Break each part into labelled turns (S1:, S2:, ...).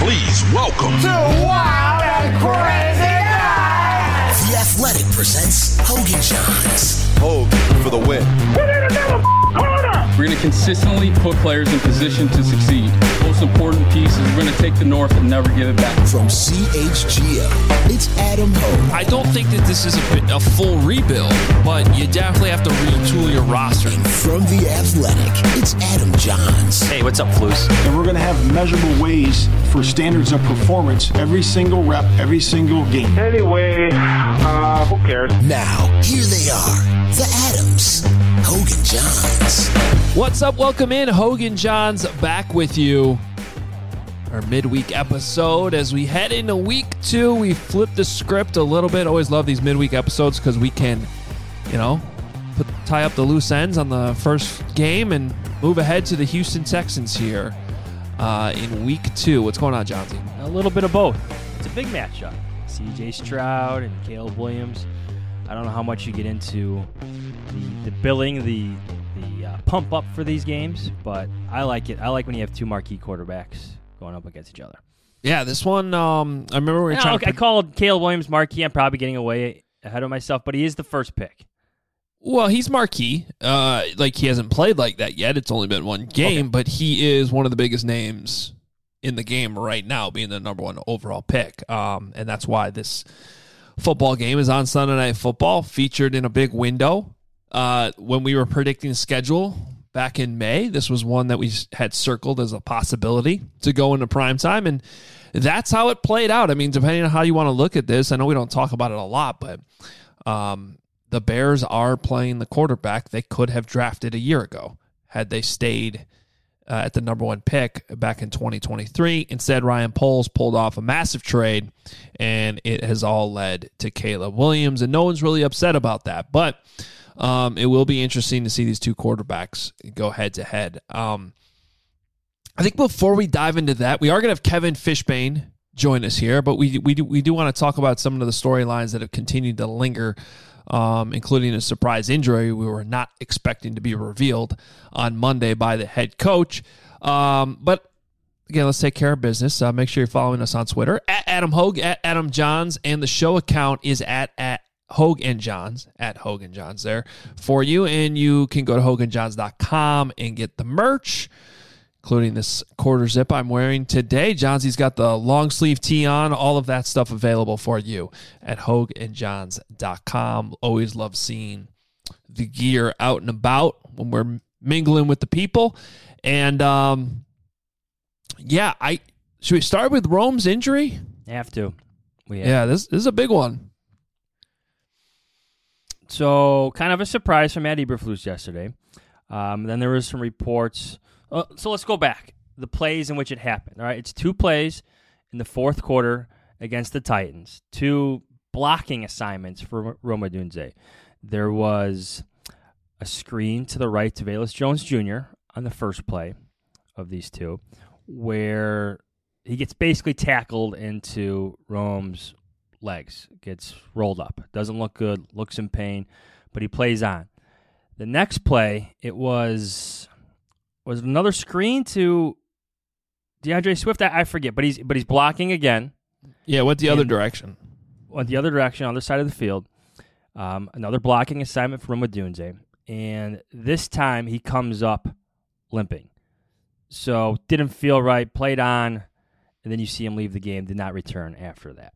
S1: Please welcome
S2: to Wild and Crazy Guys.
S3: The Athletic presents Hogan Johns.
S4: Hogue for the win.
S5: We're going to consistently put players in position to succeed. Most important piece is we're going to take the North and never give it back.
S3: From CHGO, it's Adam Hogue.
S6: I don't think that this is a full rebuild, but you definitely have to retool your roster.
S3: And from The Athletic, it's Adam Johns.
S7: Hey, what's up, Flus?
S8: And we're going to have measurable ways for standards of performance every single rep, every single game.
S9: Anyway, who cares?
S3: Now, here they are, the Adams, Hogan Johns.
S6: What's up? Welcome in. Hogan Johns back with you. Our midweek episode. As we head into week 2, we flip the script a little bit. Always love these midweek episodes because we can, tie up the loose ends on the first game and move ahead to the Houston Texans here in week 2. What's going on, Johnsy?
S10: A little bit of both. It's a big matchup. C.J. Stroud and Caleb Williams. I don't know how much you get into the billing, the pump up for these games, but I like it. I like when you have two marquee quarterbacks going up against each other.
S6: Yeah, this one, I remember we were trying to...
S10: I called Caleb Williams marquee. I'm probably getting away ahead of myself, but he is the first pick.
S6: Well, he's marquee. He hasn't played like that yet. It's only been one game, but he is one of the biggest names in the game right now, being the number 1 overall pick. And that's why this football game is on Sunday Night Football, featured in a big window. When we were predicting the schedule back in May, this was one that we had circled as a possibility to go into primetime, and that's how it played out. I mean, depending on how you want to look at this, I know we don't talk about it a lot, but the Bears are playing the quarterback they could have drafted a year ago had they stayed at the number 1 pick back in 2023. Instead, Ryan Poles pulled off a massive trade, and it has all led to Caleb Williams, and no one's really upset about that, but it will be interesting to see these two quarterbacks go head-to-head. I think before we dive into that, we are going to have Kevin Fishbane join us here, but we do want to talk about some of the storylines that have continued to linger, including a surprise injury we were not expecting to be revealed on Monday by the head coach. But again, let's take care of business. Make sure you're following us on Twitter, at Adam Hogue, at Adam Johns, and the show account is at Hogue and Johns, at Hogue and Johns there for you. And you can go to hoganjohns.com and get the merch, including this quarter zip I'm wearing today. Johnsy's got the long sleeve tee on, all of that stuff available for you at hoganjohns.com. Always love seeing the gear out and about when we're mingling with the people. And should we start with Rome's injury?
S10: Have to.
S6: This is a big one.
S10: So, kind of a surprise from Matt Eberflus yesterday. Then there was some reports. So let's go back. The plays in which it happened. All right, it's 2 plays in the fourth quarter against the Titans. 2 blocking assignments for Rome Odunze. There was a screen to the right to Velus Jones Jr. on the first play of these 2, where he gets basically tackled into Rome's legs, gets rolled up. Doesn't look good, looks in pain, but he plays on. The next play, it was another screen to DeAndre Swift. I forget, but he's blocking again.
S6: Yeah, went the other direction.
S10: Went the other direction, other side of the field. Another blocking assignment from Odunze, and this time he comes up limping. So didn't feel right, played on, and then you see him leave the game, did not return after that.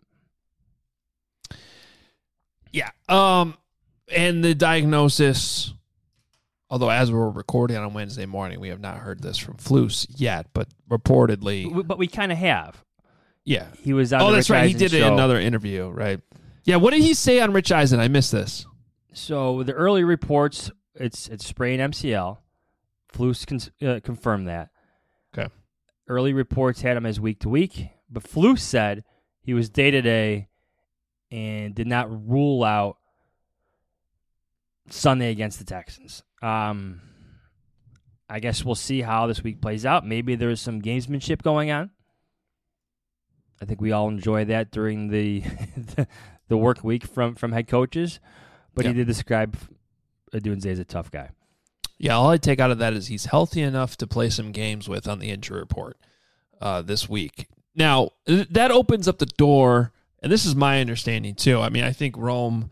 S6: Yeah. And the diagnosis, although as we're recording on Wednesday morning, we have not heard this from Flus yet, but reportedly.
S10: But we kind of have.
S6: Yeah.
S10: He was on
S6: the
S10: Rich
S6: that's right.
S10: Eisen
S6: He did
S10: show.
S6: another interview, right? Yeah. What did he say on Rich Eisen? I missed this.
S10: So the early reports, it's sprained MCL. Flus confirmed that.
S6: Okay.
S10: Early reports had him as week to week, but Flus said he was day to day and did not rule out Sunday against the Texans. I guess we'll see how this week plays out. Maybe there's some gamesmanship going on. I think we all enjoy that during the the work week from head coaches. But he did describe Odunze as a tough guy.
S6: Yeah, all I take out of that is he's healthy enough to play some games with on the injury report this week. Now, that opens up the door, and this is my understanding too. I mean, I think Rome,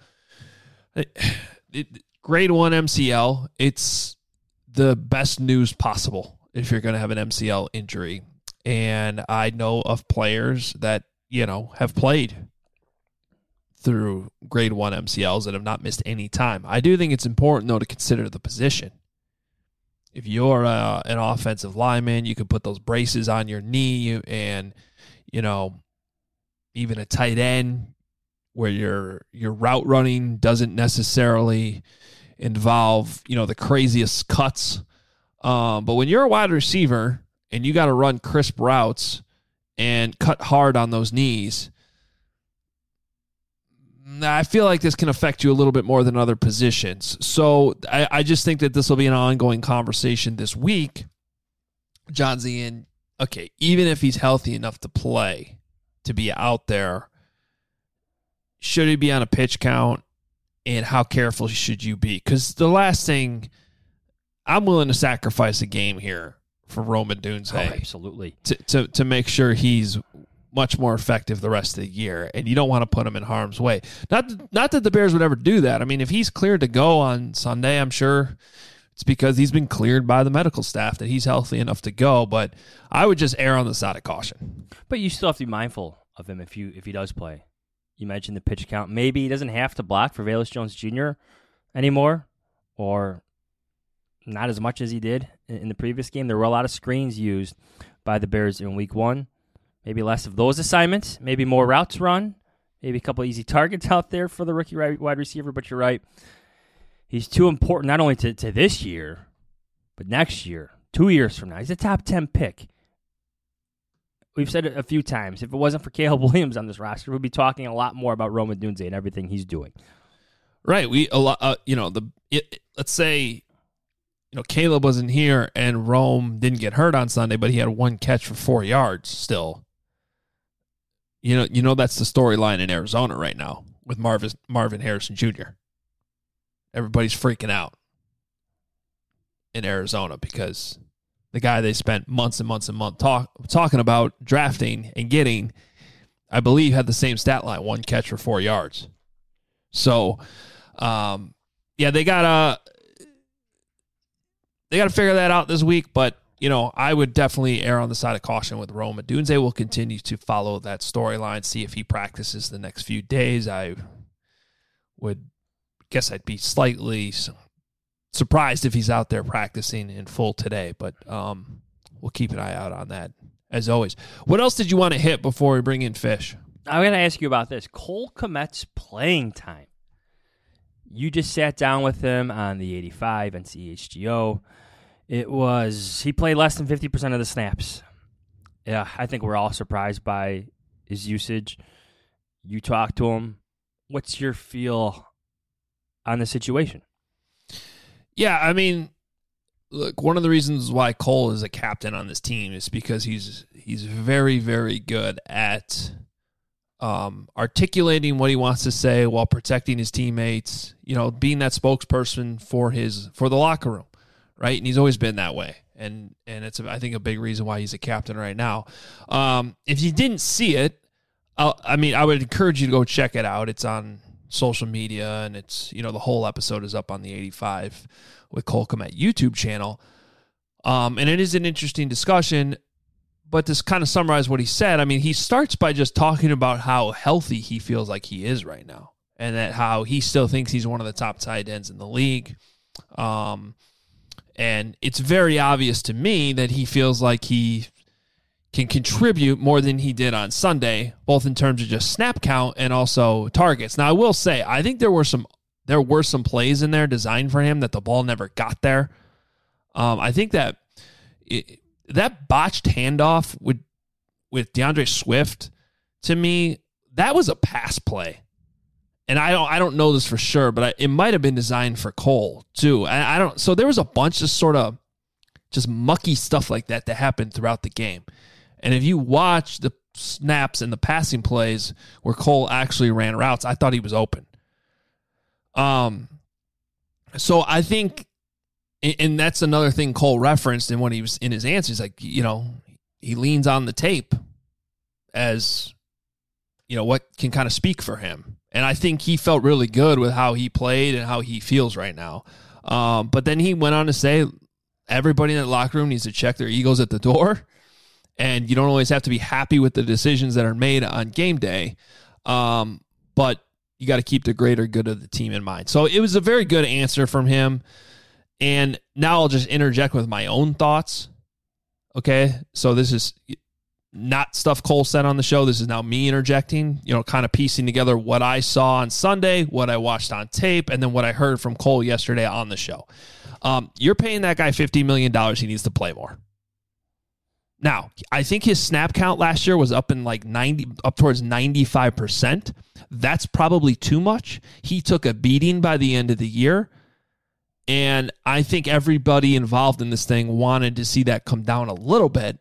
S6: grade 1 MCL, it's the best news possible if you're going to have an MCL injury. And I know of players that, have played through grade 1 MCLs and have not missed any time. I do think it's important, though, to consider the position. If you're an offensive lineman, you can put those braces on your knee, and even a tight end where your route running doesn't necessarily involve the craziest cuts. But when you're a wide receiver and you got to run crisp routes and cut hard on those knees, I feel like this can affect you a little bit more than other positions. So I just think that this will be an ongoing conversation this week. John Zien, okay, even if he's healthy enough to play, to be out there, should he be on a pitch count, and how careful should you be? Because the last thing, I'm willing to sacrifice a game here for Rome Odunze.
S10: Oh, absolutely.
S6: To make sure he's much more effective the rest of the year, and you don't want to put him in harm's way. Not that the Bears would ever do that. I mean, if he's cleared to go on Sunday, I'm sure it's because he's been cleared by the medical staff that he's healthy enough to go, but I would just err on the side of caution.
S10: But you still have to be mindful of him if he does play. You mentioned the pitch count. Maybe he doesn't have to block for Velus Jones Jr. anymore, or not as much as he did in the previous game. There were a lot of screens used by the Bears in week 1. Maybe less of those assignments, maybe more routes run, maybe a couple easy targets out there for the rookie wide receiver. But you're right. He's too important not only to this year, but next year, 2 years from now. He's a top 10 pick. We've said it a few times. If it wasn't for Caleb Williams on this roster, we'd be talking a lot more about Rome Odunze and everything he's doing.
S6: Right. Let's say, Caleb wasn't here and Rome didn't get hurt on Sunday, but he had 1 catch for 4 yards still. That's the storyline in Arizona right now with Marvin Harrison Jr. Everybody's freaking out in Arizona because the guy they spent months and months and months talking about drafting and getting, I believe, had the same stat line, 1 catch for 4 yards. So, they got to figure that out this week, but I would definitely err on the side of caution with Rome Odunze. We'll continue to follow that storyline, see if he practices the next few days. I would guess I'd be slightly surprised if he's out there practicing in full today, but we'll keep an eye out on that, as always. What else did you want to hit before we bring in Fish?
S10: I'm going to ask you about this. Cole Kmet's playing time. You just sat down with him on the 85 and CHGO. He played less than 50% of the snaps. Yeah, I think we're all surprised by his usage. You talked to him. What's your feel on the situation?
S6: Yeah, I mean, look, one of the reasons why Cole is a captain on this team is because he's very, very good at articulating what he wants to say while protecting his teammates, being that spokesperson for the locker room, right? And he's always been that way. And it's, I think, a big reason why he's a captain right now. If you didn't see it, I would encourage you to go check it out. It's on social media, and it's, the whole episode is up on the 85 with Cole Kmet YouTube channel. And it is an interesting discussion. But to kind of summarize what he said, he starts by just talking about how healthy he feels like he is right now, and that how he still thinks he's one of the top tight ends in the league. And it's very obvious to me that he feels like he can contribute more than he did on Sunday, both in terms of just snap count and also targets. Now, I will say, I think there were some plays in there designed for him that the ball never got there. I think that that botched handoff with DeAndre Swift, to me, that was a pass play. And I don't know this for sure, but it might have been designed for Cole too. So there was a bunch of sort of just mucky stuff like that happened throughout the game. And if you watch the snaps and the passing plays where Cole actually ran routes, I thought he was open. So I think, and that's another thing Cole referenced in when he was in his answers, like, he leans on the tape as, what can kind of speak for him. And I think he felt really good with how he played and how he feels right now. But then he went on to say everybody in that locker room needs to check their egos at the door. And you don't always have to be happy with the decisions that are made on game day. But you got to keep the greater good of the team in mind. So it was a very good answer from him. And now I'll just interject with my own thoughts. Okay, so this is not stuff Cole said on the show. This is now me interjecting, kind of piecing together what I saw on Sunday, what I watched on tape, and then what I heard from Cole yesterday on the show. You're paying that guy $50 million. He needs to play more. Now, I think his snap count last year was up towards 95%. That's probably too much. He took a beating by the end of the year. And I think everybody involved in this thing wanted to see that come down a little bit.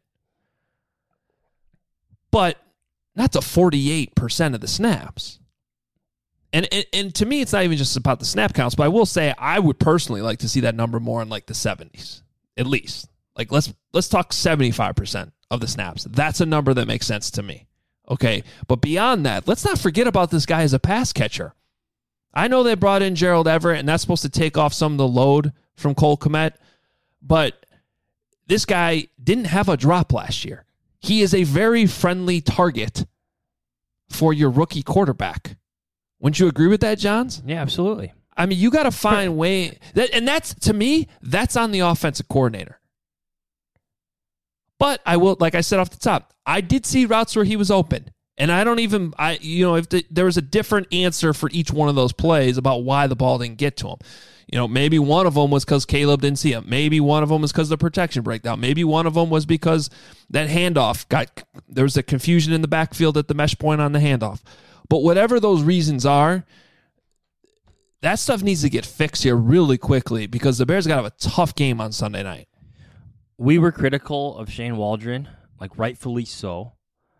S6: But not to 48% of the snaps. And to me, it's not even just about the snap counts, but I will say I would personally like to see that number more in like the 70s, at least. Like let's talk 75% of the snaps. That's a number that makes sense to me. Okay, but beyond that, let's not forget about this guy as a pass catcher. I know they brought in Gerald Everett, and that's supposed to take off some of the load from Cole Kmet, but this guy didn't have a drop last year. He is a very friendly target for your rookie quarterback. Wouldn't you agree with that, Johns?
S10: Yeah, absolutely.
S6: I mean, you got to find way and that's, to me, that's on the offensive coordinator. But I will, like I said off the top, I did see routes where he was open. And I don't even, if there was a different answer for each one of those plays about why the ball didn't get to him. Maybe one of them was because Caleb didn't see him. Maybe one of them was because the protection breakdown. Maybe one of them was because that handoff there was a confusion in the backfield at the mesh point on the handoff. But whatever those reasons are, that stuff needs to get fixed here really quickly because the Bears got to have a tough game on Sunday night.
S10: We were critical of Shane Waldron, like rightfully so.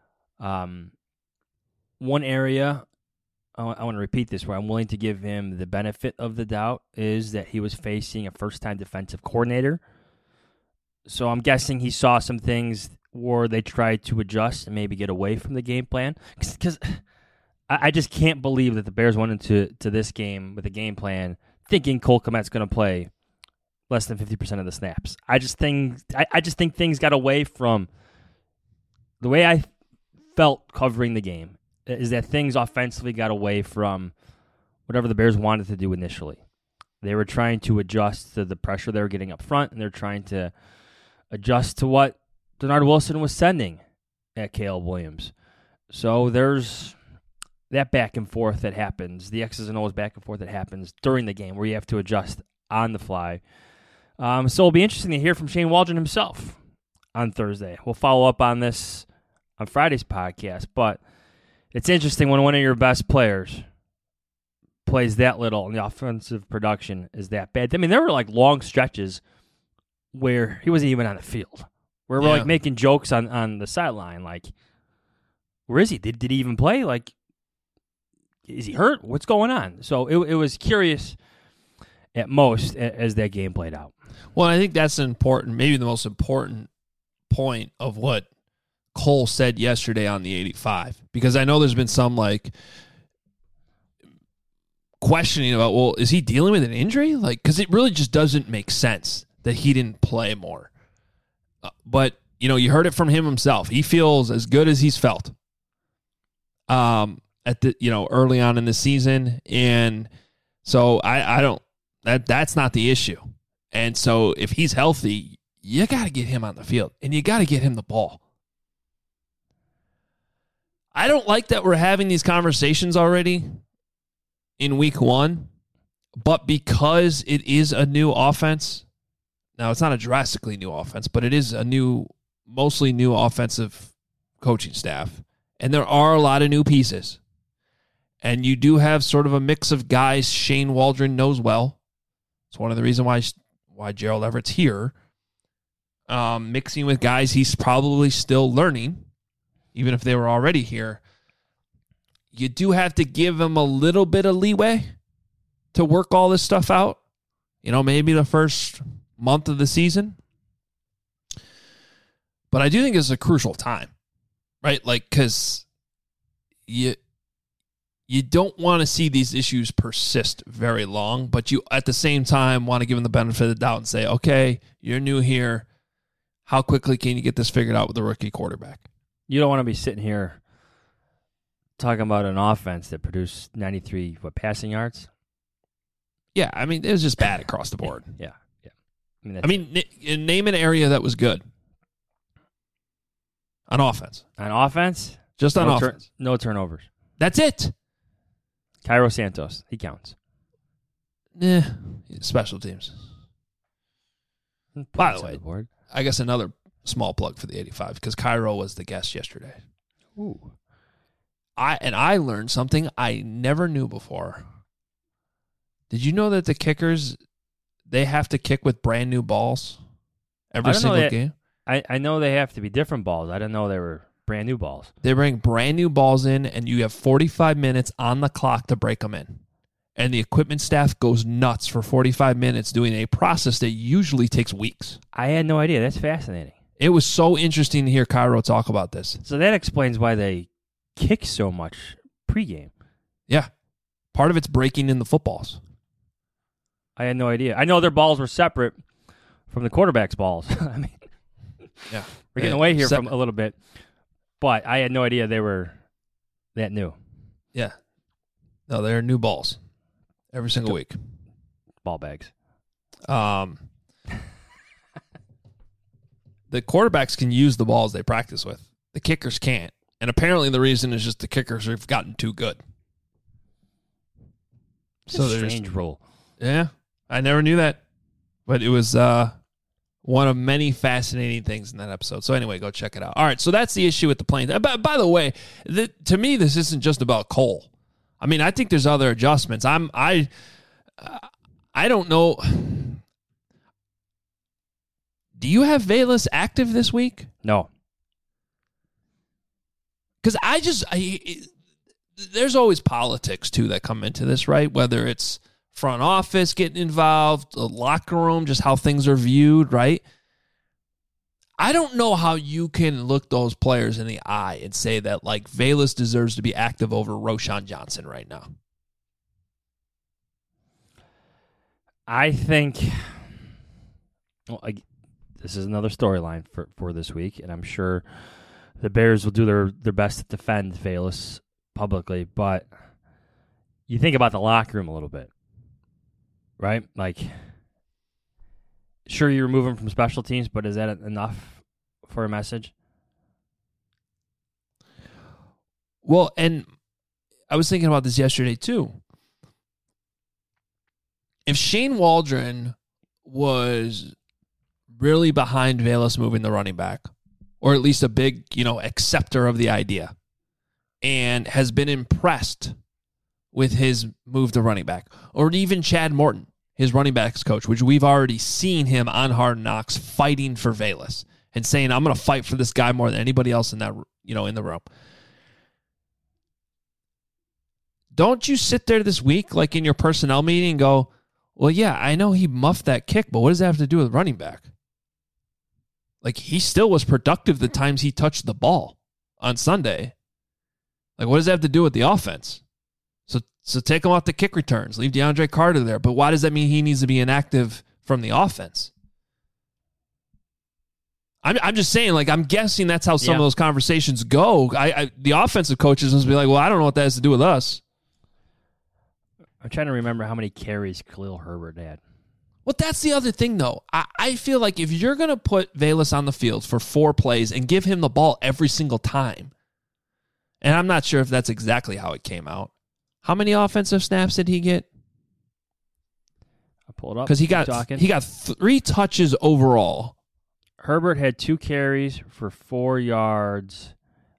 S10: One area, I want to repeat this, where I'm willing to give him the benefit of the doubt is that he was facing a first-time defensive coordinator. So I'm guessing he saw some things where they tried to adjust and maybe get away from the game plan. Because I just can't believe that the Bears went into this game with a game plan thinking Cole Kmet's going to play less than 50% of the snaps. I just think things got away from the way I felt covering the game. Is that things offensively got away from whatever the Bears wanted to do initially. They were trying to adjust to the pressure they were getting up front, and they're trying to adjust to what Denard Wilson was sending at Caleb Williams. So there's that back and forth that happens, the X's and O's back and forth that happens during the game where you have to adjust on the fly. So it'll be interesting to hear from Shane Waldron himself on Thursday. We'll follow up on this on Friday's podcast, but it's interesting when one of your best players plays that little and the offensive production is that bad. I mean, there were like long stretches where he wasn't even on the field, where we're like making jokes on the sideline, like, where is he? Did he even play? Like, is he hurt? What's going on? So it was curious at most as that game played out.
S6: Well, I think that's maybe the most important point of what Cole said yesterday on the 85, because I know there's been some like questioning about, well, is he dealing with an injury? Like, because it really just doesn't make sense that he didn't play more. But, you heard it from him himself. He feels as good as he's felt at the, early on in the season. And so that's not the issue. And so if he's healthy, you got to get him on the field and you got to get him the ball. I don't like that we're having these conversations already in week one, but because it is a new offense, now it's not a drastically new offense, but it is a mostly new offensive coaching staff, and there are a lot of new pieces. And you do have sort of a mix of guys Shane Waldron knows well. It's one of the reasons why Gerald Everett's here. Mixing with guys he's probably still learning, even if they were already here. You do have to give him a little bit of leeway to work all this stuff out. Maybe the first month of the season. But I do think it's a crucial time. right? Like, because you don't want to see these issues persist very long, but you at the same time want to give them the benefit of the doubt and say, okay, you're new here. How quickly can you get this figured out with a rookie quarterback?
S10: You don't want to be sitting here talking about an offense that produced 93 passing yards.
S6: Yeah, I mean, it was just bad across the board.
S10: Yeah.
S6: Name an area that was good on offense.
S10: On offense?
S6: Just on offense.
S10: No turnovers.
S6: That's it.
S10: Cairo Santos, he counts.
S6: Special teams. By the way, I guess another small plug for the 85 because Cairo was the guest yesterday.
S10: Ooh.
S6: I learned something I never knew before. Did you know that the kickers, they have to kick with brand new balls every single game?
S10: I know they have to be different balls. I didn't know they were brand new balls.
S6: They bring brand new balls in, and you have 45 minutes on the clock to break them in. And the equipment staff goes nuts for 45 minutes doing a process that usually takes weeks.
S10: I had no idea. That's fascinating.
S6: It was so interesting to hear Cairo talk about this.
S10: So that explains why they kick so much pregame.
S6: Yeah. Part of it's breaking in the footballs.
S10: I had no idea. I know their balls were separate from the quarterback's balls. I mean,
S6: yeah,
S10: we're getting away here from a little bit, but I had no idea they were that new.
S6: Yeah. No, they're new balls every single week.
S10: Ball bags.
S6: The quarterbacks can use the balls they practice with. The kickers can't. And apparently the reason is just the kickers have gotten too good.
S10: So there's a strange rule.
S6: Yeah. I never knew that. But it was one of many fascinating things in that episode. So anyway, go check it out. All right, so that's the issue with the Plains. By the way, to me, this isn't just about Cole. I mean, I think there's other adjustments. I don't know. Do you have Velus active this week?
S10: No.
S6: Because there's always politics, too, that come into this, right? Whether it's front office getting involved, the locker room, just how things are viewed, right? I don't know how you can look those players in the eye and say that, like, Velus deserves to be active over Roschon Johnson right now.
S10: I think this is another storyline for this week, and I'm sure the Bears will do their best to defend Velus publicly, but you think about the locker room a little bit, right? Like, sure, you remove him from special teams, but is that enough for a message?
S6: Well, and I was thinking about this yesterday, too. If Shane Waldron was really behind Velus moving the running back, or at least a big, acceptor of the idea, and has been impressed with his move to running back, or even Chad Morton, his running backs coach, which we've already seen him on Hard Knocks fighting for Velus and saying, I'm going to fight for this guy more than anybody else in that, in the room. Don't you sit there this week, like in your personnel meeting, and go, well, yeah, I know he muffed that kick, but what does that have to do with running back? Like, he still was productive the times he touched the ball on Sunday. Like, what does that have to do with the offense? So take him off the kick returns. Leave DeAndre Carter there. But why does that mean he needs to be inactive from the offense? I'm just saying, like, I'm guessing that's how some of those conversations go. The offensive coaches must be like, well, I don't know what that has to do with us.
S10: I'm trying to remember how many carries Khalil Herbert had.
S6: Well, that's the other thing, though. I feel like if you're going to put Velus on the field for 4 plays and give him the ball every single time, and I'm not sure if that's exactly how it came out. How many offensive snaps did he get?
S10: I'll pull it up.
S6: Because he got 3 touches overall.
S10: Herbert had 2 carries for 4 yards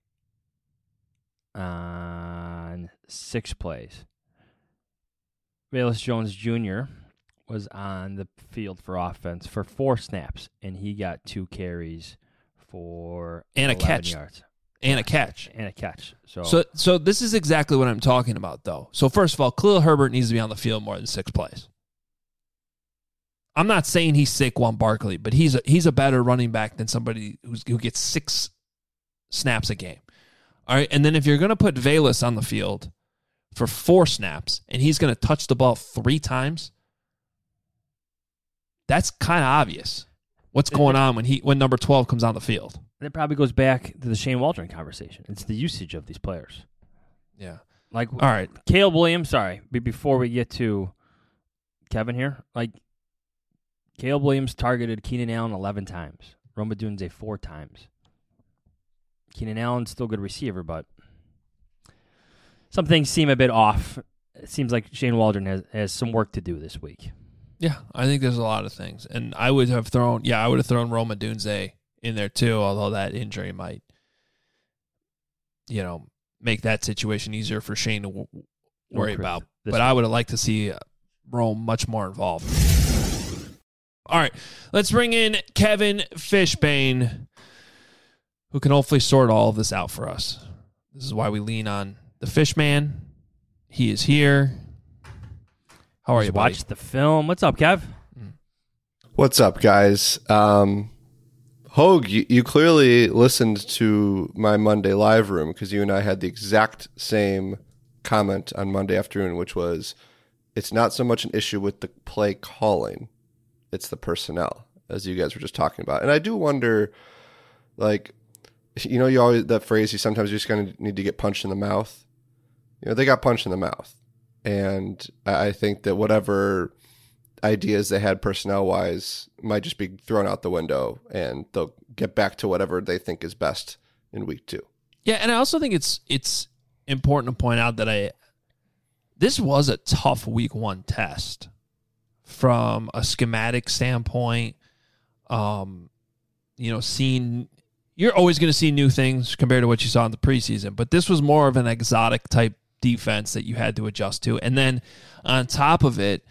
S10: on 6 plays. Velus Jones Jr. was on the field for offense for 4 snaps, and he got 2 carries for
S6: and a catch.
S10: Yards.
S6: And a catch.
S10: And a catch.
S6: So this is exactly what I'm talking about, though. So first of all, Khalil Herbert needs to be on the field more than 6 plays. I'm not saying he's Saquon Barkley, but he's a better running back than somebody who gets 6 snaps a game. All right, and then if you're going to put Velus on the field for 4 snaps and he's going to touch the ball 3 times, that's kind of obvious. What's going on when number 12 comes on the field?
S10: That probably goes back to the Shane Waldron conversation. It's the usage of these players.
S6: Yeah.
S10: Like,
S6: all right,
S10: Caleb Williams, sorry, before we get to Kevin here, like, Caleb Williams targeted Keenan Allen 11 times. Rome Odunze 4 times. Keenan Allen's still a good receiver, but some things seem a bit off. It seems like Shane Waldron has some work to do this week.
S6: Yeah, I think there's a lot of things. And I would have thrown Rome Odunze in there too, although that injury might, make that situation easier for Shane to worry about. But I would have liked to see Rome much more involved. All right, let's bring in Kevin Fishbane, who can hopefully sort all of this out for us. This is why we lean on the Fishman. He is here. How are you, buddy?
S10: Watch the film. What's up, Kev?
S1: What's up, guys? Hogue, you clearly listened to my Monday live room because you and I had the exact same comment on Monday afternoon, which was, it's not so much an issue with the play calling, it's the personnel, as you guys were just talking about. And I do wonder, like, you always, that phrase, sometimes you just kind of need to get punched in the mouth. They got punched in the mouth. And I think that whatever ideas they had personnel-wise might just be thrown out the window, and they'll get back to whatever they think is best in week 2.
S6: Yeah, and I also think it's important to point out that this was a tough week 1 test from a schematic standpoint. Seeing, you're always going to see new things compared to what you saw in the preseason, but this was more of an exotic type defense that you had to adjust to. And then on top of it,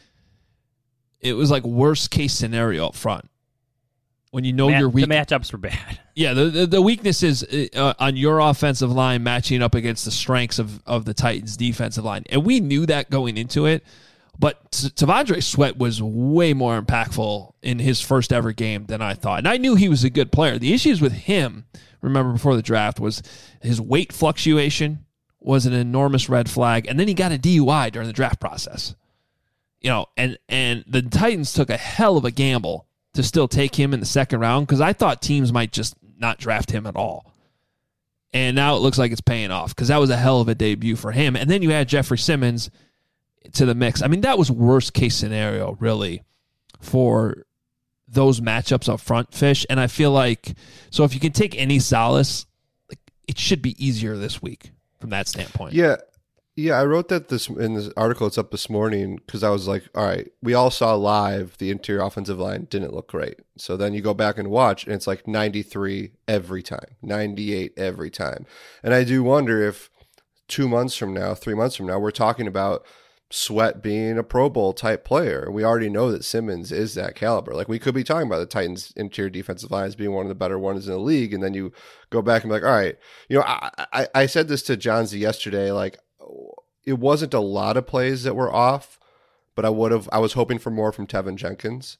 S6: it was like worst case scenario up front. When your weak,
S10: the matchups were bad.
S6: Yeah, the weakness is on your offensive line matching up against the strengths of the Titans' defensive line. And we knew that going into it, but T'Vondre Sweat was way more impactful in his first ever game than I thought. And I knew he was a good player. The issues with him, remember before the draft, was his weight fluctuation was an enormous red flag, and then he got a DUI during the draft process. And the Titans took a hell of a gamble to still take him in the second round because I thought teams might just not draft him at all. And now it looks like it's paying off because that was a hell of a debut for him. And then you add Jeffrey Simmons to the mix. I mean, that was worst case scenario, really, for those matchups up front, Fish. And I feel like, so if you can take any solace, it should be easier this week from that standpoint.
S1: Yeah, I wrote that in this article. It's up this morning because I was like, all right, we all saw live the interior offensive line didn't look great. So then you go back and watch, and it's like 93 every time, 98 every time. And I do wonder if 2 months from now, 3 months from now, we're talking about Sweat being a Pro Bowl type player. We already know that Simmons is that caliber. Like, we could be talking about the Titans' interior defensive line as being one of the better ones in the league, and then you go back and be like, all right, I said this to John Z yesterday, like, it wasn't a lot of plays that were off, but I was hoping for more from Tevin Jenkins.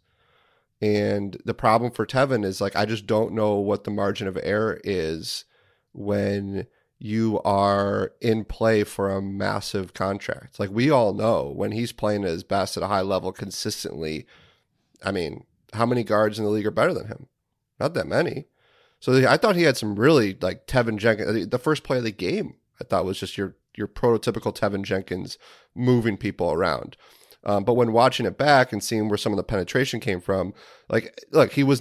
S1: And the problem for Tevin is, like, I just don't know what the margin of error is when you are in play for a massive contract. Like, we all know when he's playing at his best at a high level consistently, I mean, how many guards in the league are better than him? Not that many. So I thought he had some really, like, Tevin Jenkins. The first play of the game, I thought, was just your prototypical Tevin Jenkins moving people around. But when watching it back and seeing where some of the penetration came from, like, look, he was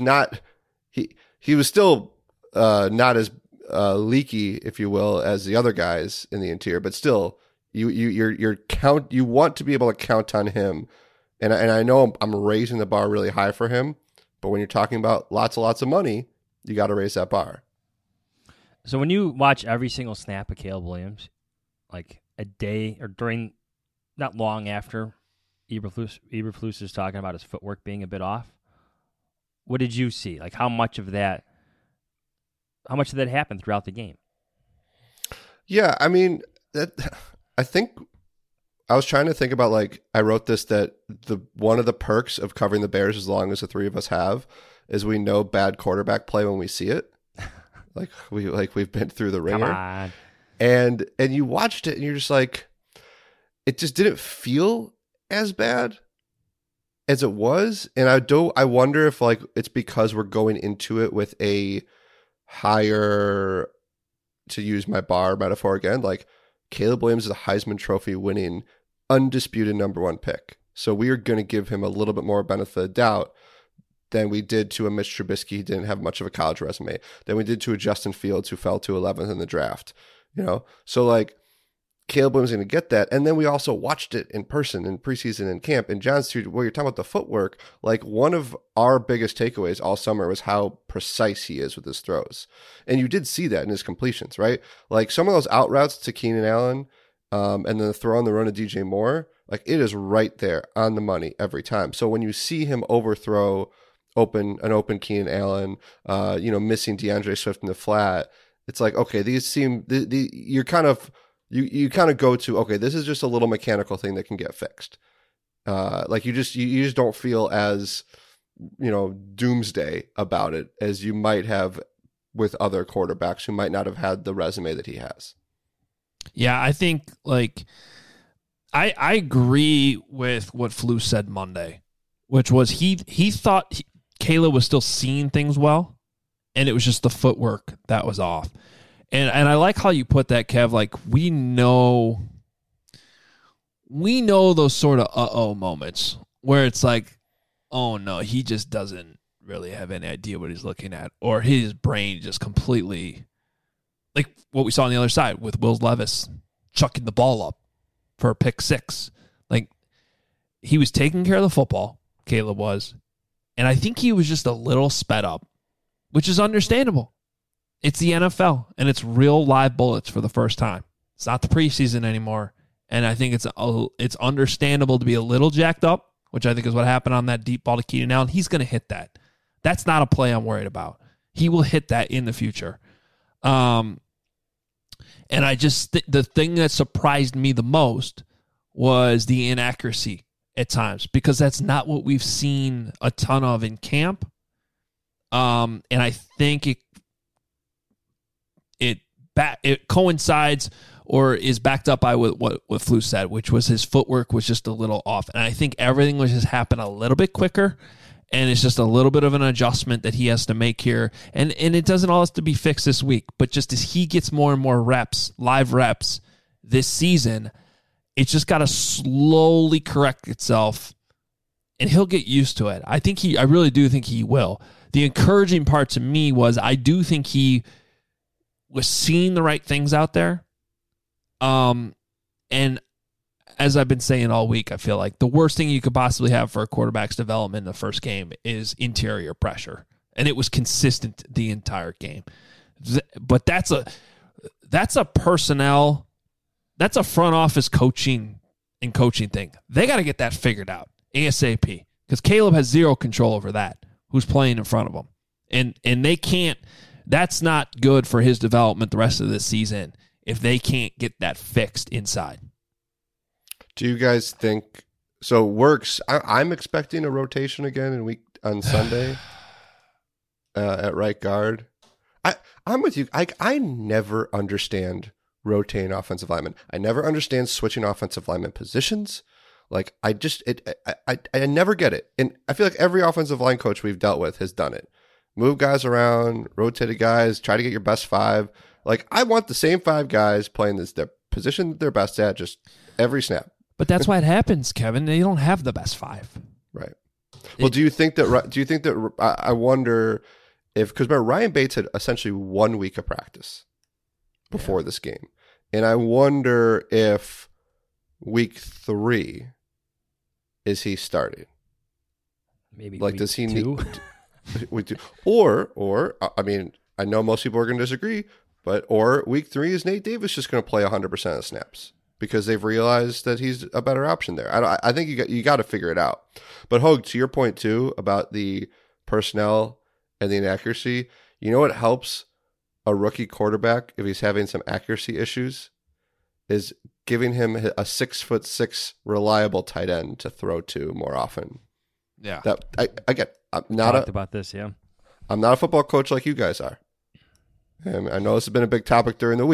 S1: still not as leaky, if you will, as the other guys in the interior, but still, you want to be able to count on him. And I know I'm raising the bar really high for him, but when you're talking about lots of money, you got to raise that bar.
S10: So when you watch every single snap of Caleb Williams, like a day or during, not long after Eberflus is talking about his footwork being a bit off, what did you see? Like, how much of that happened throughout the game?
S1: Yeah, I mean, I think I was trying to think about, like, I wrote this, that one of the perks of covering the Bears, as long as the three of us have, is we know bad quarterback play when we see it. We've been through the ringer.
S10: Come on.
S1: And you watched it and you're just like, it just didn't feel as bad as it was. And I wonder if like it's because we're going into it with a higher, to use my bar metaphor again, like Caleb Williams is a Heisman Trophy winning undisputed number 1 pick. So we are going to give him a little bit more benefit of the doubt than we did to a Mitch Trubisky who didn't have much of a college resume, than we did to a Justin Fields who fell to 11th in the draft. So like Caleb Williams is going to get that. And then we also watched it in person in preseason and camp. And John's, where you're talking about the footwork, like one of our biggest takeaways all summer was how precise he is with his throws. And you did see that in his completions, right? Like some of those out routes to Keenan Allen and then the throw on the run to DJ Moore, like it is right there on the money every time. So when you see him overthrow an open Keenan Allen, missing DeAndre Swift in the flat, it's like, okay, these seem, you're kind of, you kind of go to, okay, this is just a little mechanical thing that can get fixed. Like you just don't feel as, doomsday about it as you might have with other quarterbacks who might not have had the resume that he has.
S6: Yeah, I think like I agree with what Flus said Monday, which was he thought Caleb was still seeing things well, and it was just the footwork that was off. And I like how you put that, Kev. Like we know those sort of moments where it's like, oh no, he just doesn't really have any idea what he's looking at, or his brain just completely, like what we saw on the other side with Will Levis chucking the ball up for a pick 6. Like he was taking care of the football, Caleb was, and I think he was just a little sped up, which is understandable. It's the NFL, and it's real live bullets for the first time. It's not the preseason anymore, and I think it's understandable to be a little jacked up, which I think is what happened on that deep ball to Keenan Allen. He's going to hit that. That's not a play I'm worried about. He will hit that in the future. And I just the thing that surprised me the most was the inaccuracy at times, because that's not what we've seen a ton of in camp. And I think it coincides or is backed up by what Flus said, which was his footwork was just a little off. And I think everything was just happen a little bit quicker, and it's just a little bit of an adjustment that he has to make here. And it doesn't all have to be fixed this week, but just as he gets more and more reps, live reps this season, it's just got to slowly correct itself, and he'll get used to it. I really do think he will. The encouraging part to me was I do think he was seeing the right things out there. And as I've been saying all week, I feel like the worst thing you could possibly have for a quarterback's development in the first game is interior pressure. And it was consistent the entire game. But that's a personnel, that's a front office coaching thing. They got to get that figured out ASAP, because Caleb has zero control over that, who's playing in front of him. And they can't, that's not good for his development the rest of this season if they can't get that fixed inside.
S1: Do you guys think so? Works. I'm expecting a rotation again on Sunday at right guard. I'm with you. I never understand rotating offensive linemen. I never understand switching offensive lineman positions. Like I never get it. And I feel like every offensive line coach we've dealt with has done it. Move guys around, rotate guys, try to get your best 5. Like I want the same 5 guys playing their position they're best at just every snap.
S6: But that's why it happens, Kevin. They don't have the best 5.
S1: Right. Well, do you think that I wonder if, because Ryan Bates had essentially 1 week of practice before this game. And I wonder if week 3 is he starting?
S10: Maybe
S1: like
S10: week
S1: does he
S10: 2?
S1: need or I mean, I know most people are going to disagree, or week 3 is Nate Davis just going to play 100% of snaps because they've realized that he's a better option there. I think you got to figure it out. But Hogue, to your point too about the personnel and the inaccuracy, you know what helps a rookie quarterback if he's having some accuracy issues is giving him a 6'6" reliable tight end to throw to more often.
S6: Yeah,
S1: that I get. I'm
S10: talked about this. Yeah,
S1: I'm not a football coach like you guys are. And I know this has been a big topic during the week,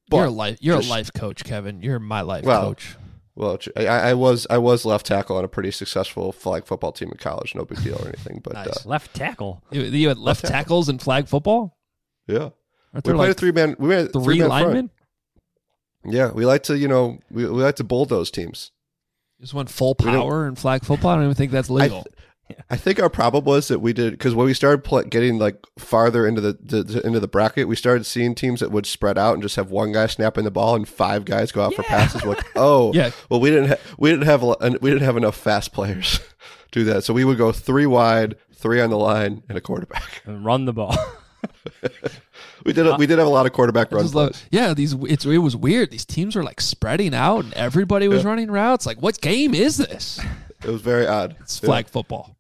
S6: You're a life coach, Kevin. You're my life coach.
S1: Well, I was left tackle on a pretty successful flag football team in college. No big deal or anything. But
S10: nice. Left tackle.
S6: You had left tackles in flag football?
S1: Yeah.
S6: We
S1: played a three-man. We had
S6: three linemen.
S1: Yeah, we like to we like to bulldoze teams.
S6: Just went full power in flag football. I don't even think that's legal.
S1: I think our problem was that we did, because when we started getting like farther into the bracket, we started seeing teams that would spread out and just have one guy snapping the ball and 5 guys go out for passes. We're like, oh, yeah. Well, we didn't have enough fast players to do that, so we would go 3 wide, 3 on the line, and a quarterback
S10: and run the ball.
S1: We did have a lot of quarterback runs.
S6: It was weird. These teams were like spreading out, and everybody was running routes. Like, what game is this?
S1: It was very odd.
S6: It's flag football.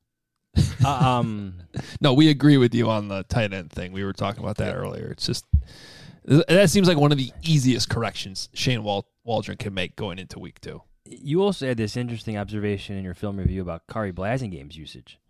S6: No, we agree with you on the tight end thing. We were talking about that earlier. It's just that seems like one of the easiest corrections Shane Waldron can make going into week 2.
S10: You also had this interesting observation in your film review about Khari Blasingame's usage.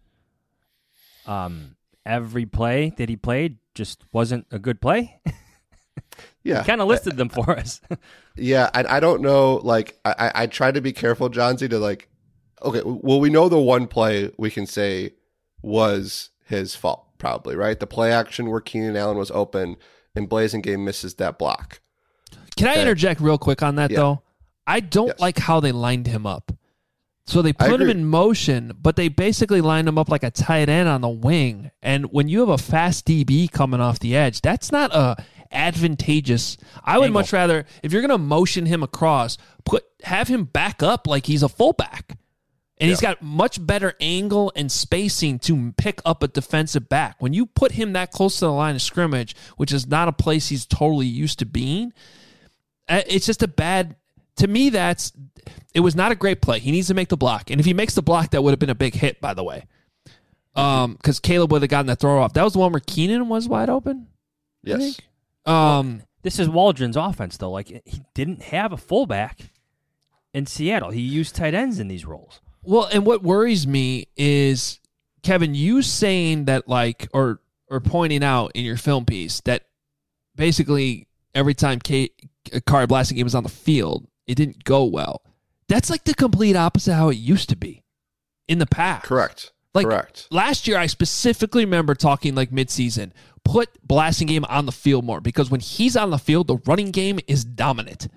S10: Every play that he played just wasn't a good play.
S1: Yeah,
S10: he kind of listed them for us.
S1: Yeah, I don't know. Like, I try to be careful, Johnsy, to like. Okay, well, we know the one play we can say was his fault, probably, right? The play action where Keenan Allen was open and Blasingame misses that block.
S6: Can I interject real quick on that, though? I don't like how they lined him up. So they put him in motion, but they basically lined him up like a tight end on the wing. And when you have a fast DB coming off the edge, that's not advantageous. I would much rather, if you're going to motion him across, have him back up like he's a fullback. And he's got much better angle and spacing to pick up a defensive back. When you put him that close to the line of scrimmage, which is not a place he's totally used to being, it's just a bad... To me, it was not a great play. He needs to make the block. And if he makes the block, that would have been a big hit, by the way. Because Caleb would have gotten that throw off. That was the one where Keenan was wide open?
S1: Yes.
S10: This is Waldron's offense, though. Like, he didn't have a fullback in Seattle. He used tight ends in these roles.
S6: Well, and what worries me is, Kevin, you saying that, like, or pointing out in your film piece that basically every time Khari Blasingame was on the field, it didn't go well. That's like the complete opposite of how it used to be in the past.
S1: Correct.
S6: Last year, I specifically remember talking like midseason, put Blasingame on the field more, because when he's on the field, the running game is dominant.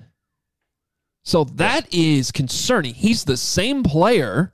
S6: So that is concerning. He's the same player.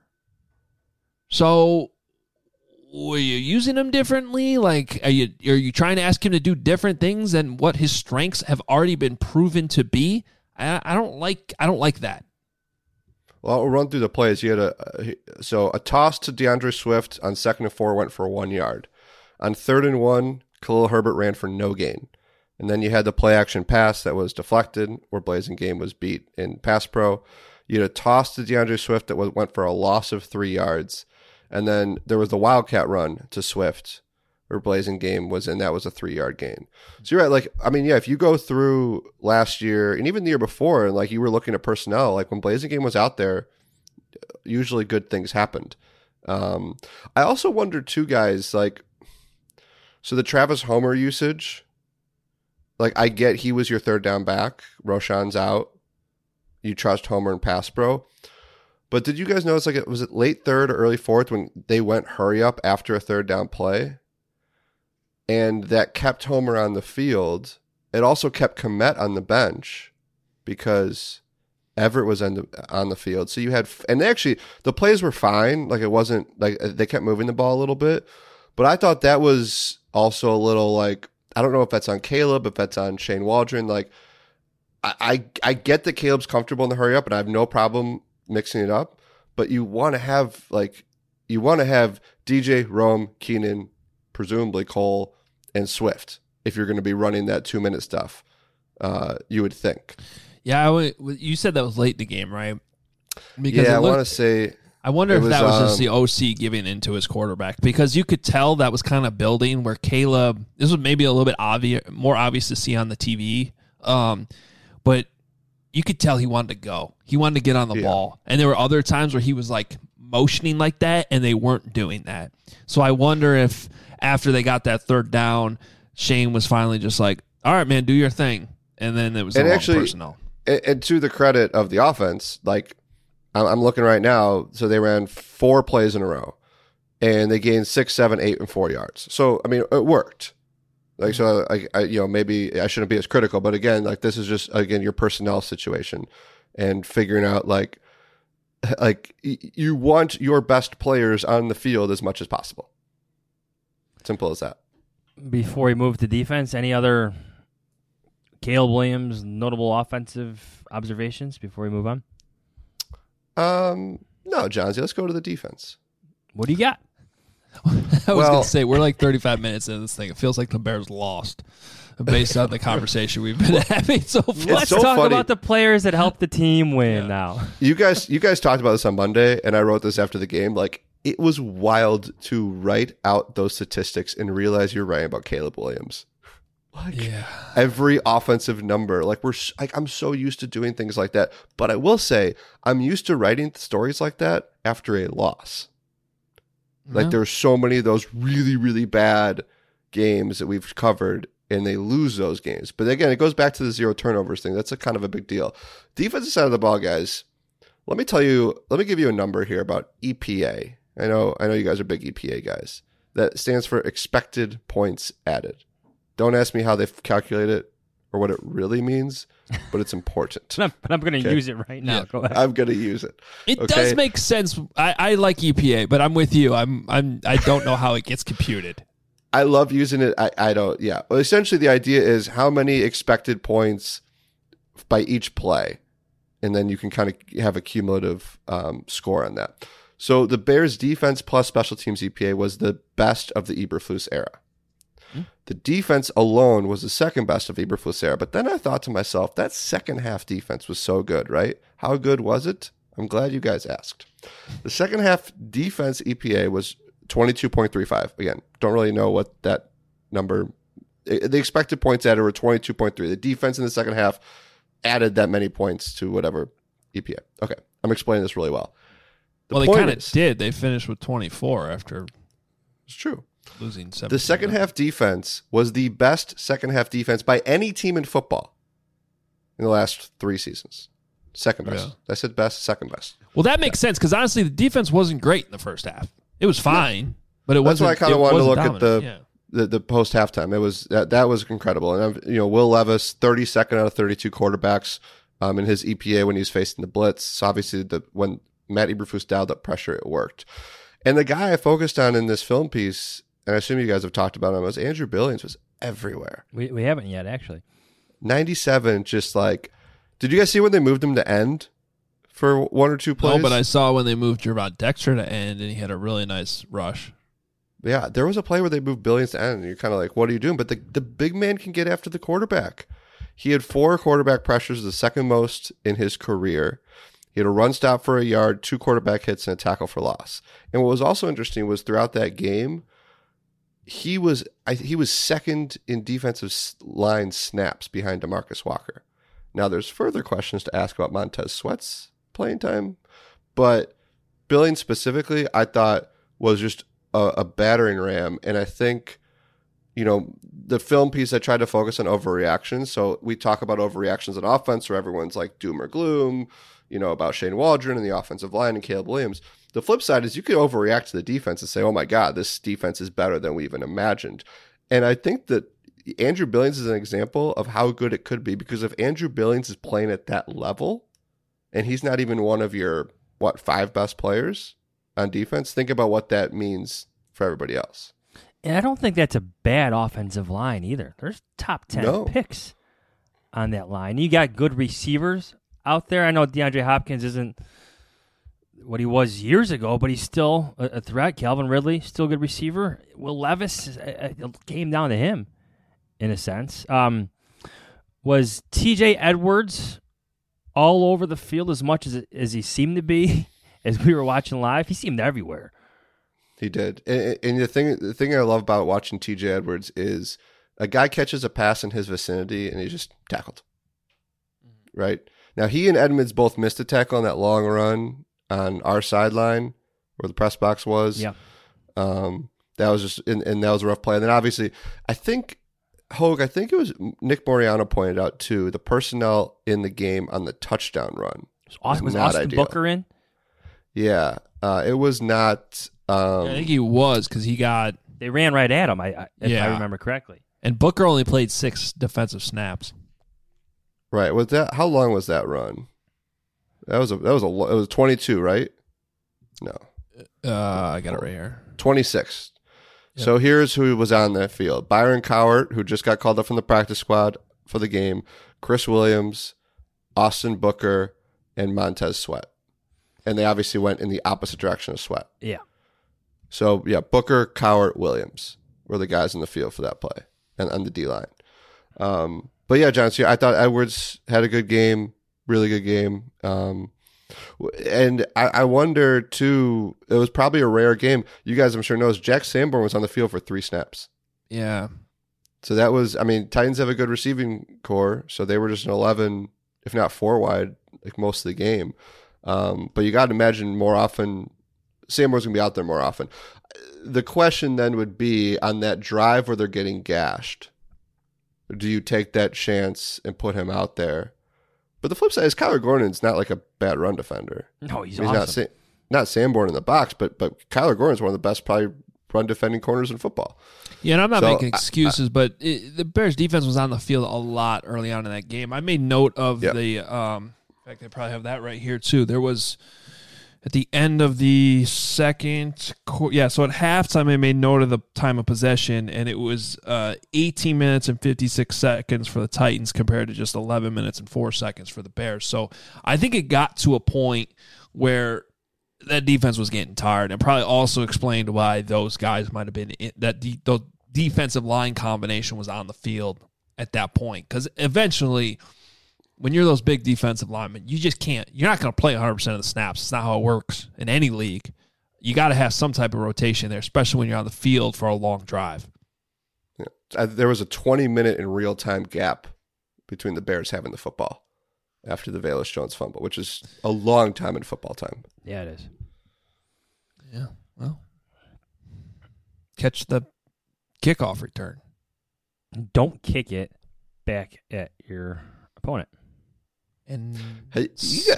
S6: So were you using him differently? Like, are you trying to ask him to do different things than what his strengths have already been proven to be? I don't like that.
S1: Well, I'll run through the plays. You had a toss to DeAndre Swift on 2nd and 4 went for 1 yard. On 3rd and 1, Khalil Herbert ran for no gain. And then you had the play action pass that was deflected, where Blasingame was beat in pass pro. You had a toss to DeAndre Swift that went for a loss of 3 yards. And then there was the Wildcat run to Swift, where Blasingame was in. That was a 3-yard gain. So you're right. Like, I mean, yeah, if you go through last year and even the year before, and like you were looking at personnel, like when Blasingame was out there, usually good things happened. I also wonder too, guys, like, so the Travis Homer usage, like, I get he was your 3rd down back. Roshan's out. You trust Homer and pass pro. But did you guys notice, like, was it late 3rd or early 4th when they went hurry up after a 3rd down play? And that kept Homer on the field. It also kept Kmet on the bench because Everett was on the field. So you had, and the plays were fine. Like, it wasn't, like, they kept moving the ball a little bit. But I thought that was also a little, like, I don't know if that's on Caleb, if that's on Shane Waldron. Like, I get that Caleb's comfortable in the hurry up, and I have no problem mixing it up. But you want to have DJ, Rome, Keenan, presumably Cole, and Swift if you're going to be running that 2-minute stuff. You would think.
S6: Yeah, you said that was late in the game, right?
S1: Because I want to say.
S6: I wonder if that was just the OC giving into his quarterback, because you could tell that was kind of building where Caleb, this was maybe a little bit more obvious to see on the TV, but you could tell he wanted to go. He wanted to get on the ball. And there were other times where he was like motioning like that, and they weren't doing that. So I wonder if after they got that 3rd down, Shane was finally just like, all right, man, do your thing. and then it was
S1: And
S6: the wrong
S1: actually-
S6: personnel.
S1: And to the credit of the offense, like I'm looking right now, so they ran 4 plays in a row, and they gained 6, 7, 8, and 4 yards. So I mean, it worked. Like so, maybe I shouldn't be as critical, but again, like this is just your personnel situation and figuring out like you want your best players on the field as much as possible. Simple as that.
S10: Before we move to defense, any other Caleb Williams notable offensive observations before we move on?
S1: No, Johnsy, let's go to the defense.
S10: What do you got?
S6: I was going to say, we're like 35 minutes into this thing. It feels like the Bears lost based on the conversation we've been having so far.
S10: Let's
S1: so
S10: talk
S1: funny.
S10: about the players that helped the team win now.
S1: You guys talked about this on Monday, and I wrote this after the game. Like, it was wild to write out those statistics and realize you're writing about Caleb Williams. Like every offensive number, I'm so used to doing things like that. But I will say, I'm used to writing stories like that after a loss. Like there's so many of those really, really bad games that we've covered, and they lose those games. But again, it goes back to the 0 turnovers thing. That's a kind of a big deal. Defensive side of the ball, guys. Let me give you a number here about EPA. I know you guys are big EPA guys. That stands for expected points added. Don't ask me how they calculate it or what it really means, but it's important.
S10: But I'm going to use it right now.
S6: Yeah.
S10: Go ahead.
S1: I'm going to use it.
S6: It does make sense. I like EPA, but I'm with you. I don't know how it gets computed.
S1: I love using it. I don't. Yeah. Well, essentially, the idea is how many expected points by each play, and then you can kind of have a cumulative score on that. So the Bears' defense plus special teams EPA was the best of the Eberflus era. The defense alone was the second best of Eberflus era. But then I thought to myself, that second half defense was so good, right? How good was it? I'm glad you guys asked. The second half defense EPA was 22.35. Again, don't really know what that number. The expected points added were 22.3. The defense in the second half added that many points to whatever EPA. Okay, I'm explaining this really well.
S6: They kind of did. They finished with 24 after.
S1: It's true.
S6: Losing 7.
S1: The second half defense was the best second half defense by any team in football in the last 3 seasons. Second best. I said best, second best.
S6: Well, that makes sense because honestly, the defense wasn't great in the first half. It was fine, but it wasn't.
S1: That's why I kind of wanted to look
S6: dominant.
S1: at the post halftime. It was that was incredible. And Will Levis, 32nd out of 32 quarterbacks in his EPA when he was facing the blitz. So obviously, when Matt Eberflus dialed up pressure, it worked. And the guy I focused on in this film piece, and I assume you guys have talked about him, was Andrew Billings. Was everywhere.
S10: We haven't yet, actually.
S1: 97, just like, did you guys see when they moved him to end for 1 or 2 plays?
S6: No, but I saw when they moved Gervon Dexter to end, and he had a really nice rush.
S1: Yeah, there was a play where they moved Billings to end, and you're kind of like, what are you doing? But the big man can get after the quarterback. He had 4 quarterback pressures, the second most in his career. He had a run stop for a yard, 2 quarterback hits, and a tackle for loss. And what was also interesting was throughout that game, he was second in defensive line snaps behind DeMarcus Walker. Now, there's further questions to ask about Montez Sweat's playing time, but Billings specifically, I thought, was just a battering ram. And I think, the film piece, I tried to focus on overreactions. So we talk about overreactions on offense where everyone's like doom or gloom, about Shane Waldron and the offensive line and Caleb Williams. The flip side is you could overreact to the defense and say, oh my God, this defense is better than we even imagined. And I think that Andrew Billings is an example of how good it could be, because if Andrew Billings is playing at that level and he's not even one of your, 5 best players on defense, think about what that means for everybody else.
S10: And I don't think that's a bad offensive line either. There's top 10 picks on that line. You got good receivers out there. I know DeAndre Hopkins isn't what he was years ago, but he's still a threat. Calvin Ridley, still a good receiver. Will Levis, it came down to him in a sense. Was TJ Edwards all over the field as much as he seemed to be as we were watching live? He seemed everywhere.
S1: He did. And the thing I love about watching TJ Edwards is a guy catches a pass in his vicinity and he's just tackled. Right? Now, he and Edmonds both missed a tackle on that long run on our sideline where the press box was.
S10: Yeah.
S1: That was just, and that was a rough play. And then obviously, I think Hogue, I think it was Nick Moriano pointed out too, the personnel in the game on the touchdown run.
S10: Was
S1: not
S10: Austin
S1: ideal.
S10: Booker in?
S1: Yeah, it was not.
S6: I think he was because he got.
S10: They ran right at him. If I remember correctly.
S6: And Booker only played 6 defensive snaps.
S1: Right. Was that? How long was that run? It was 22, right? No.
S6: I got it right here.
S1: 26. Yep. So here's who was on that field. Byron Cowart, who just got called up from the practice squad for the game. Chris Williams, Austin Booker, and Montez Sweat. And they obviously went in the opposite direction of Sweat.
S10: Yeah.
S1: So, yeah, Booker, Cowart, Williams were the guys in the field for that play and on the D-line. But, yeah, John, so I thought Edwards had a good game, really good game. And I wonder, too, it was probably a rare game. You guys, I'm sure, knows Jack Sanborn was on the field for 3 snaps.
S6: Yeah.
S1: So that was, I mean, Titans have a good receiving core, so they were just an 11, if not 4 wide, like most of the game. But you got to imagine more often, Sanborn's going to be out there more often. The question then would be on that drive where they're getting gashed, do you take that chance and put him out there? But the flip side is Kyler Gordon's not like a bad run defender.
S10: No, he's
S1: awesome. Not Sanborn in the box, but Kyler Gordon's one of the best probably run defending corners in football.
S6: Yeah, and I'm not making excuses, but the Bears defense was on the field a lot early on in that game. I made note of the in fact, they probably have that right here too. There was at the end of the second quarter, so at halftime I made note of the time of possession, and it was 18 minutes and 56 seconds for the Titans compared to just 11 minutes and 4 seconds for the Bears. So I think it got to a point where that defense was getting tired, and probably also explained why those guys might have been the defensive line combination was on the field at that point. Because eventually, when you're those big defensive linemen, you just can't. You're not going to play 100% of the snaps. It's not how it works in any league. You got to have some type of rotation there, especially when you're on the field for a long drive.
S1: Yeah. There was a 20-minute in real-time gap between the Bears having the football after the Velus Jones fumble, which is a long time in football time.
S10: Yeah, it is.
S6: Yeah, well, catch the kickoff return.
S10: Don't kick it back at your opponent.
S6: And
S1: have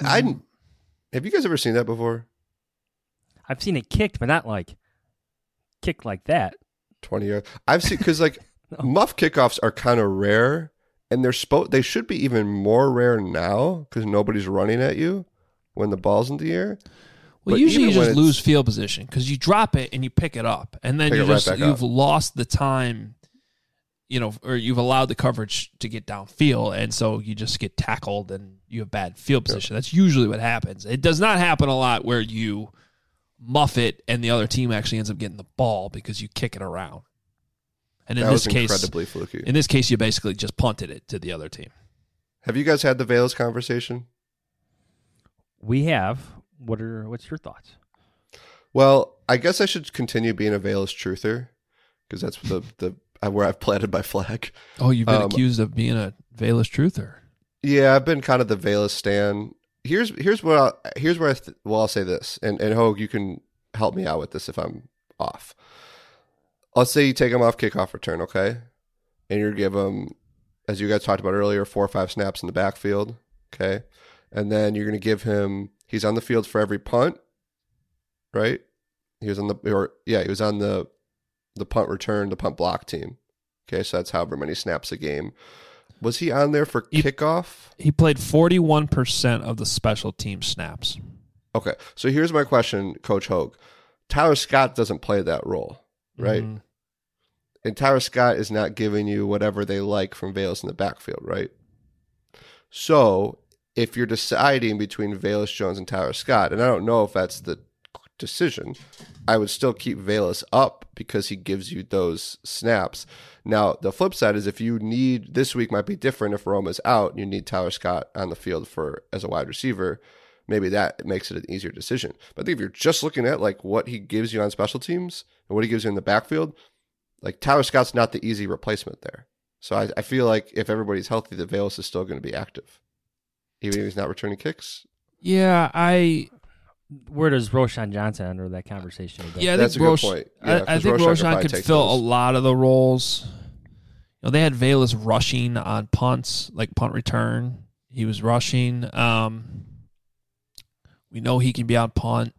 S1: you guys ever seen that before? I've
S10: seen it kicked, but not like kicked like that.
S1: 20 years. I've seen, because like muff kickoffs are kind of rare, and they should be even more rare now because nobody's running at you when the ball's in the air.
S6: Well,
S1: but
S6: usually you just lose field position because you drop it and you pick it up, and then you've lost the time, or you've allowed the coverage to get downfield, and so you just get tackled and you have bad field position. That's usually what happens. It does not happen a lot where you muff it and the other team actually ends up getting the ball because you kick it around. And in this case,
S1: incredibly fluky.
S6: In this case, you basically just punted it to the other team.
S1: Have you guys had the Velus conversation?
S10: We have. What's your thoughts?
S1: Well, I guess I should continue being a Velus truther because that's the where I've planted my flag.
S6: Oh, you've been accused of being a Velus truther.
S1: Yeah, I've been kind of the Velus stan. Here's where I'll say this, and Hogue, you can help me out with this if I'm off. Let's say you take him off kickoff return, okay, and you give him, as you guys talked about earlier, 4 or 5 snaps in the backfield, okay, and then you're going to give him. He's on the field for every punt, right? He was on the punt return, the punt block team. Okay, so that's however many snaps a game. Was he on there for kickoff?
S6: He played 41% of the special team snaps.
S1: Okay, so here's my question, Coach Hogue. Tyler Scott doesn't play that role, right? Mm-hmm. And Tyler Scott is not giving you whatever they like from Velus in the backfield, right? So if you're deciding between Velus Jones and Tyler Scott, and I don't know if that's the decision, I would still keep Velus up because he gives you those snaps. Now, the flip side is if you need, this week might be different if Roma's out and you need Tyler Scott on the field as a wide receiver, maybe that makes it an easier decision. But I think if you're just looking at like what he gives you on special teams and what he gives you in the backfield, like Tyler Scott's not the easy replacement there. So I feel like if everybody's healthy, that Velus is still going to be active. Even if he's not returning kicks?
S6: Yeah,
S10: Where does Roschon Johnson enter that conversation?
S6: Yeah,
S1: that's a good point. Yeah,
S6: I think Roschon could fill a lot of the roles. they had Velus rushing on punts, like punt return. He was rushing. We know he can be on punt.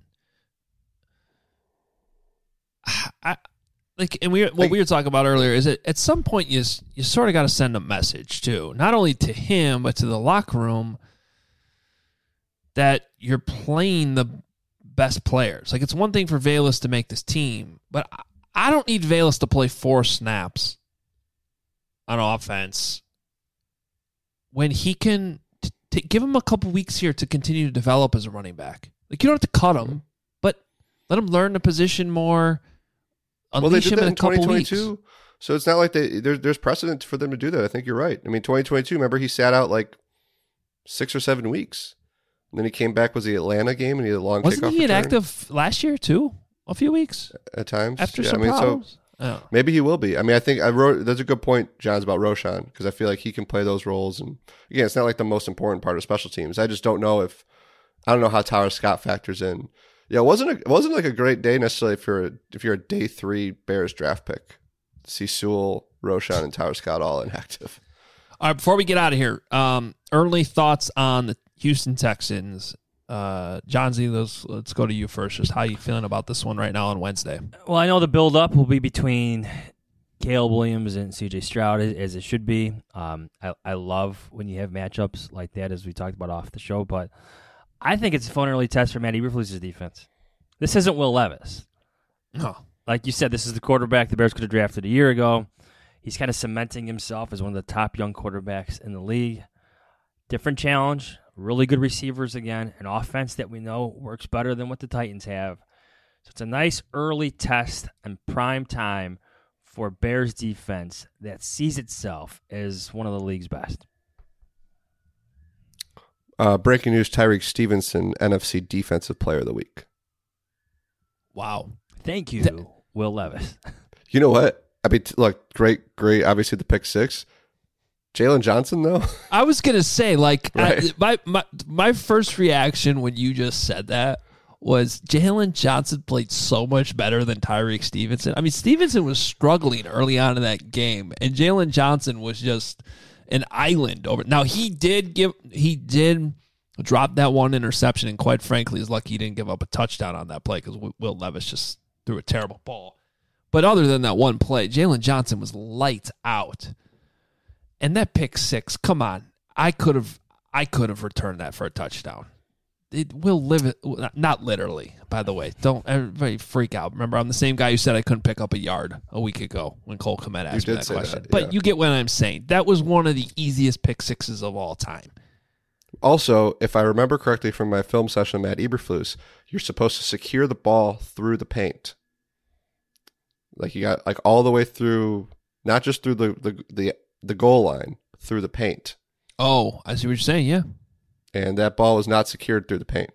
S6: What we were talking about earlier is that at some point you sort of got to send a message too, not only to him but to the locker room, that you're playing the best players. Like, it's one thing for Velus to make this team, but I don't need Velus to play 4 snaps on offense when he can give him a couple weeks here to continue to develop as a running back. Like, you don't have to cut him, but let him learn the position more.
S1: They did that in 2022,
S6: weeks.
S1: So it's not like there's precedent for them to do that. I think you're right. I mean, 2022, remember, he sat out like 6 or 7 weeks. And then he came back, was the Atlanta game, and he had a long kickoff return.
S6: Wasn't he inactive last year, too? A few weeks?
S1: At times.
S6: After some problems?
S1: So maybe he will be. I mean, I think that's a good point, John's, about Roschon, because I feel like he can play those roles. And again, it's not like the most important part of special teams. I just don't know how Tyler Scott factors in. Yeah, it wasn't like a great day necessarily if you're a day 3 Bears draft pick to see Sewell, Roschon, and Tyler Scott all inactive.
S6: All right, before we get out of here, early thoughts on the Houston Texans. John Z, let's go to you first. Just how you feeling about this one right now on Wednesday?
S10: Well, I know the build-up will be between Caleb Williams and C.J. Stroud, as it should be. I love when you have matchups like that, as we talked about off the show, but I think it's a fun early test for Matt Eberflus's defense. This isn't Will Levis.
S6: No.
S10: Like you said, this is the quarterback the Bears could have drafted a year ago. He's kind of cementing himself as one of the top young quarterbacks in the league. Different challenge, really good receivers again, an offense that we know works better than what the Titans have. So it's a nice early test and prime time for Bears defense that sees itself as one of the league's best.
S1: Breaking news, Tyreek Stevenson, NFC Defensive Player of the Week.
S6: Wow.
S10: Thank you, Will Levis.
S1: You know what? I mean, look, great, obviously the pick 6. Jalen Johnson, though?
S6: I was going to say, like,
S1: right.
S6: my first reaction when you just said that was Jalen Johnson played so much better than Tyreek Stevenson. I mean, Stevenson was struggling early on in that game, and Jalen Johnson was just an island over. Now, he did drop that one interception, and quite frankly, he's lucky he didn't give up a touchdown on that play because Will Levis just threw a terrible ball. But other than that one play, Jalen Johnson was lights out. And that pick 6, come on. I could have returned that for a touchdown. It will live it, not literally, by the way. Don't everybody freak out. Remember, I'm the same guy who said I couldn't pick up a yard a week ago when Cole Kmet asked me that question. But you get what I'm saying. That was one of the easiest pick 6s of all time.
S1: Also, if I remember correctly from my film session with Matt Eberflus, you're supposed to secure the ball through the paint. Like you got like all the way through, not just through the goal line, through the paint.
S6: Oh, I see what you're saying, yeah.
S1: And that ball was not secured through the paint.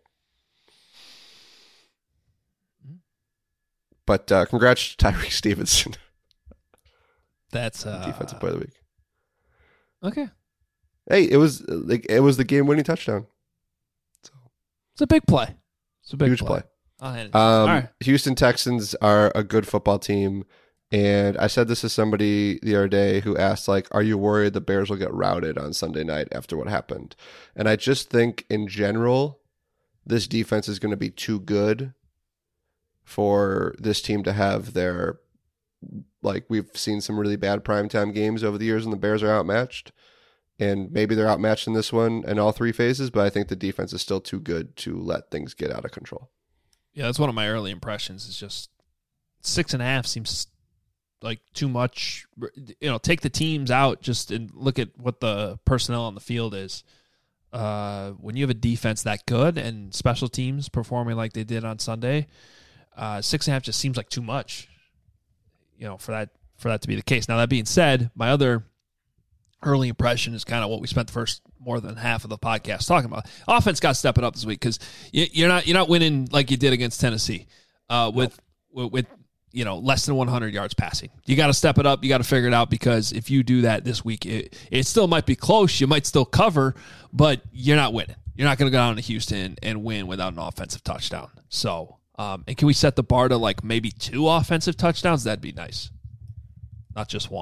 S1: But congrats to Tyreek Stevenson.
S6: That's
S1: Defensive Player of the Week.
S6: Okay.
S1: Hey, it was the game-winning touchdown. So
S6: it's a big play. It's a big
S1: huge play.
S6: All right.
S1: Houston Texans are a good football team. And I said this to somebody the other day who asked, like, are you worried the Bears will get routed on Sunday night after what happened? And I just think, in general, this defense is going to be too good for this team to have their, like, we've seen some really bad primetime games over the years and the Bears are outmatched. And maybe they're outmatched in this one in all 3 phases, but I think the defense is still too good to let things get out of control.
S6: Yeah, that's one of my early impressions. Is just 6.5 seems like too much. You know, take the teams out just and look at what the personnel on the field is. When you have a defense that good and special teams performing like they did on Sunday, 6.5 just seems like too much. You know, for that to be the case. Now that being said, my other early impression is kind of what we spent the first more than half of the podcast talking about. Offense got stepping up this week because you're not winning like you did against Tennessee with less than 100 yards passing. You got to step it up. You got to figure it out because if you do that this week, it still might be close. You might still cover, but you're not winning. You're not going to go down to Houston and win without an offensive touchdown. So, and can we set the bar to like maybe 2 offensive touchdowns? That'd be nice. Not just 1.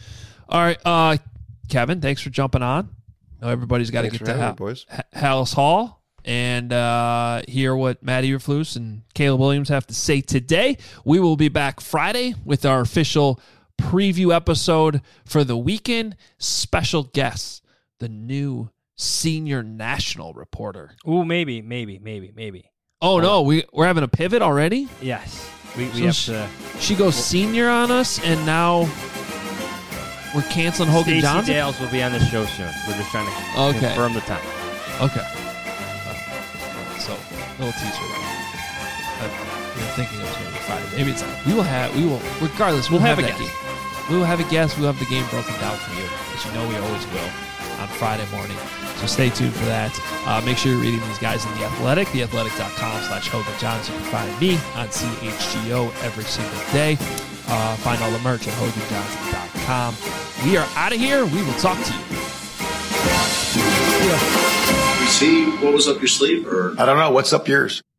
S6: All right, Kevin, thanks for jumping on. I know everybody's got to get to
S1: boys.
S6: Hallis Hall and hear what Matt Eberflus and Caleb Williams have to say today. We will be back Friday with our official preview episode for the weekend. Special guests, the new senior national reporter.
S10: Ooh, maybe.
S6: Oh, no, we're having a pivot already?
S10: Yes. We
S6: So
S10: have to.
S6: She goes senior on us, and now we're canceling Hogan
S10: Stacey
S6: Johnson?
S10: Dales will be on the show soon. We're just trying to confirm the time.
S6: Okay. So, little teaser there. We were thinking it was going to be Friday. Maybe it's not. We will, regardless, we'll have a
S10: guest.
S6: We will have a guest. We'll have the game broken down for you, as you know we always will, on Friday morning. So stay tuned for that. Make sure you're reading these guys in The Athletic, theathletic.com/Hogan Johnson. You can find me on CHGO every single day. Find all the merch at HoganJohnson.com. We are out of here. We will talk to you.
S4: We see what was up your sleeve, or
S8: I don't know. What's up yours?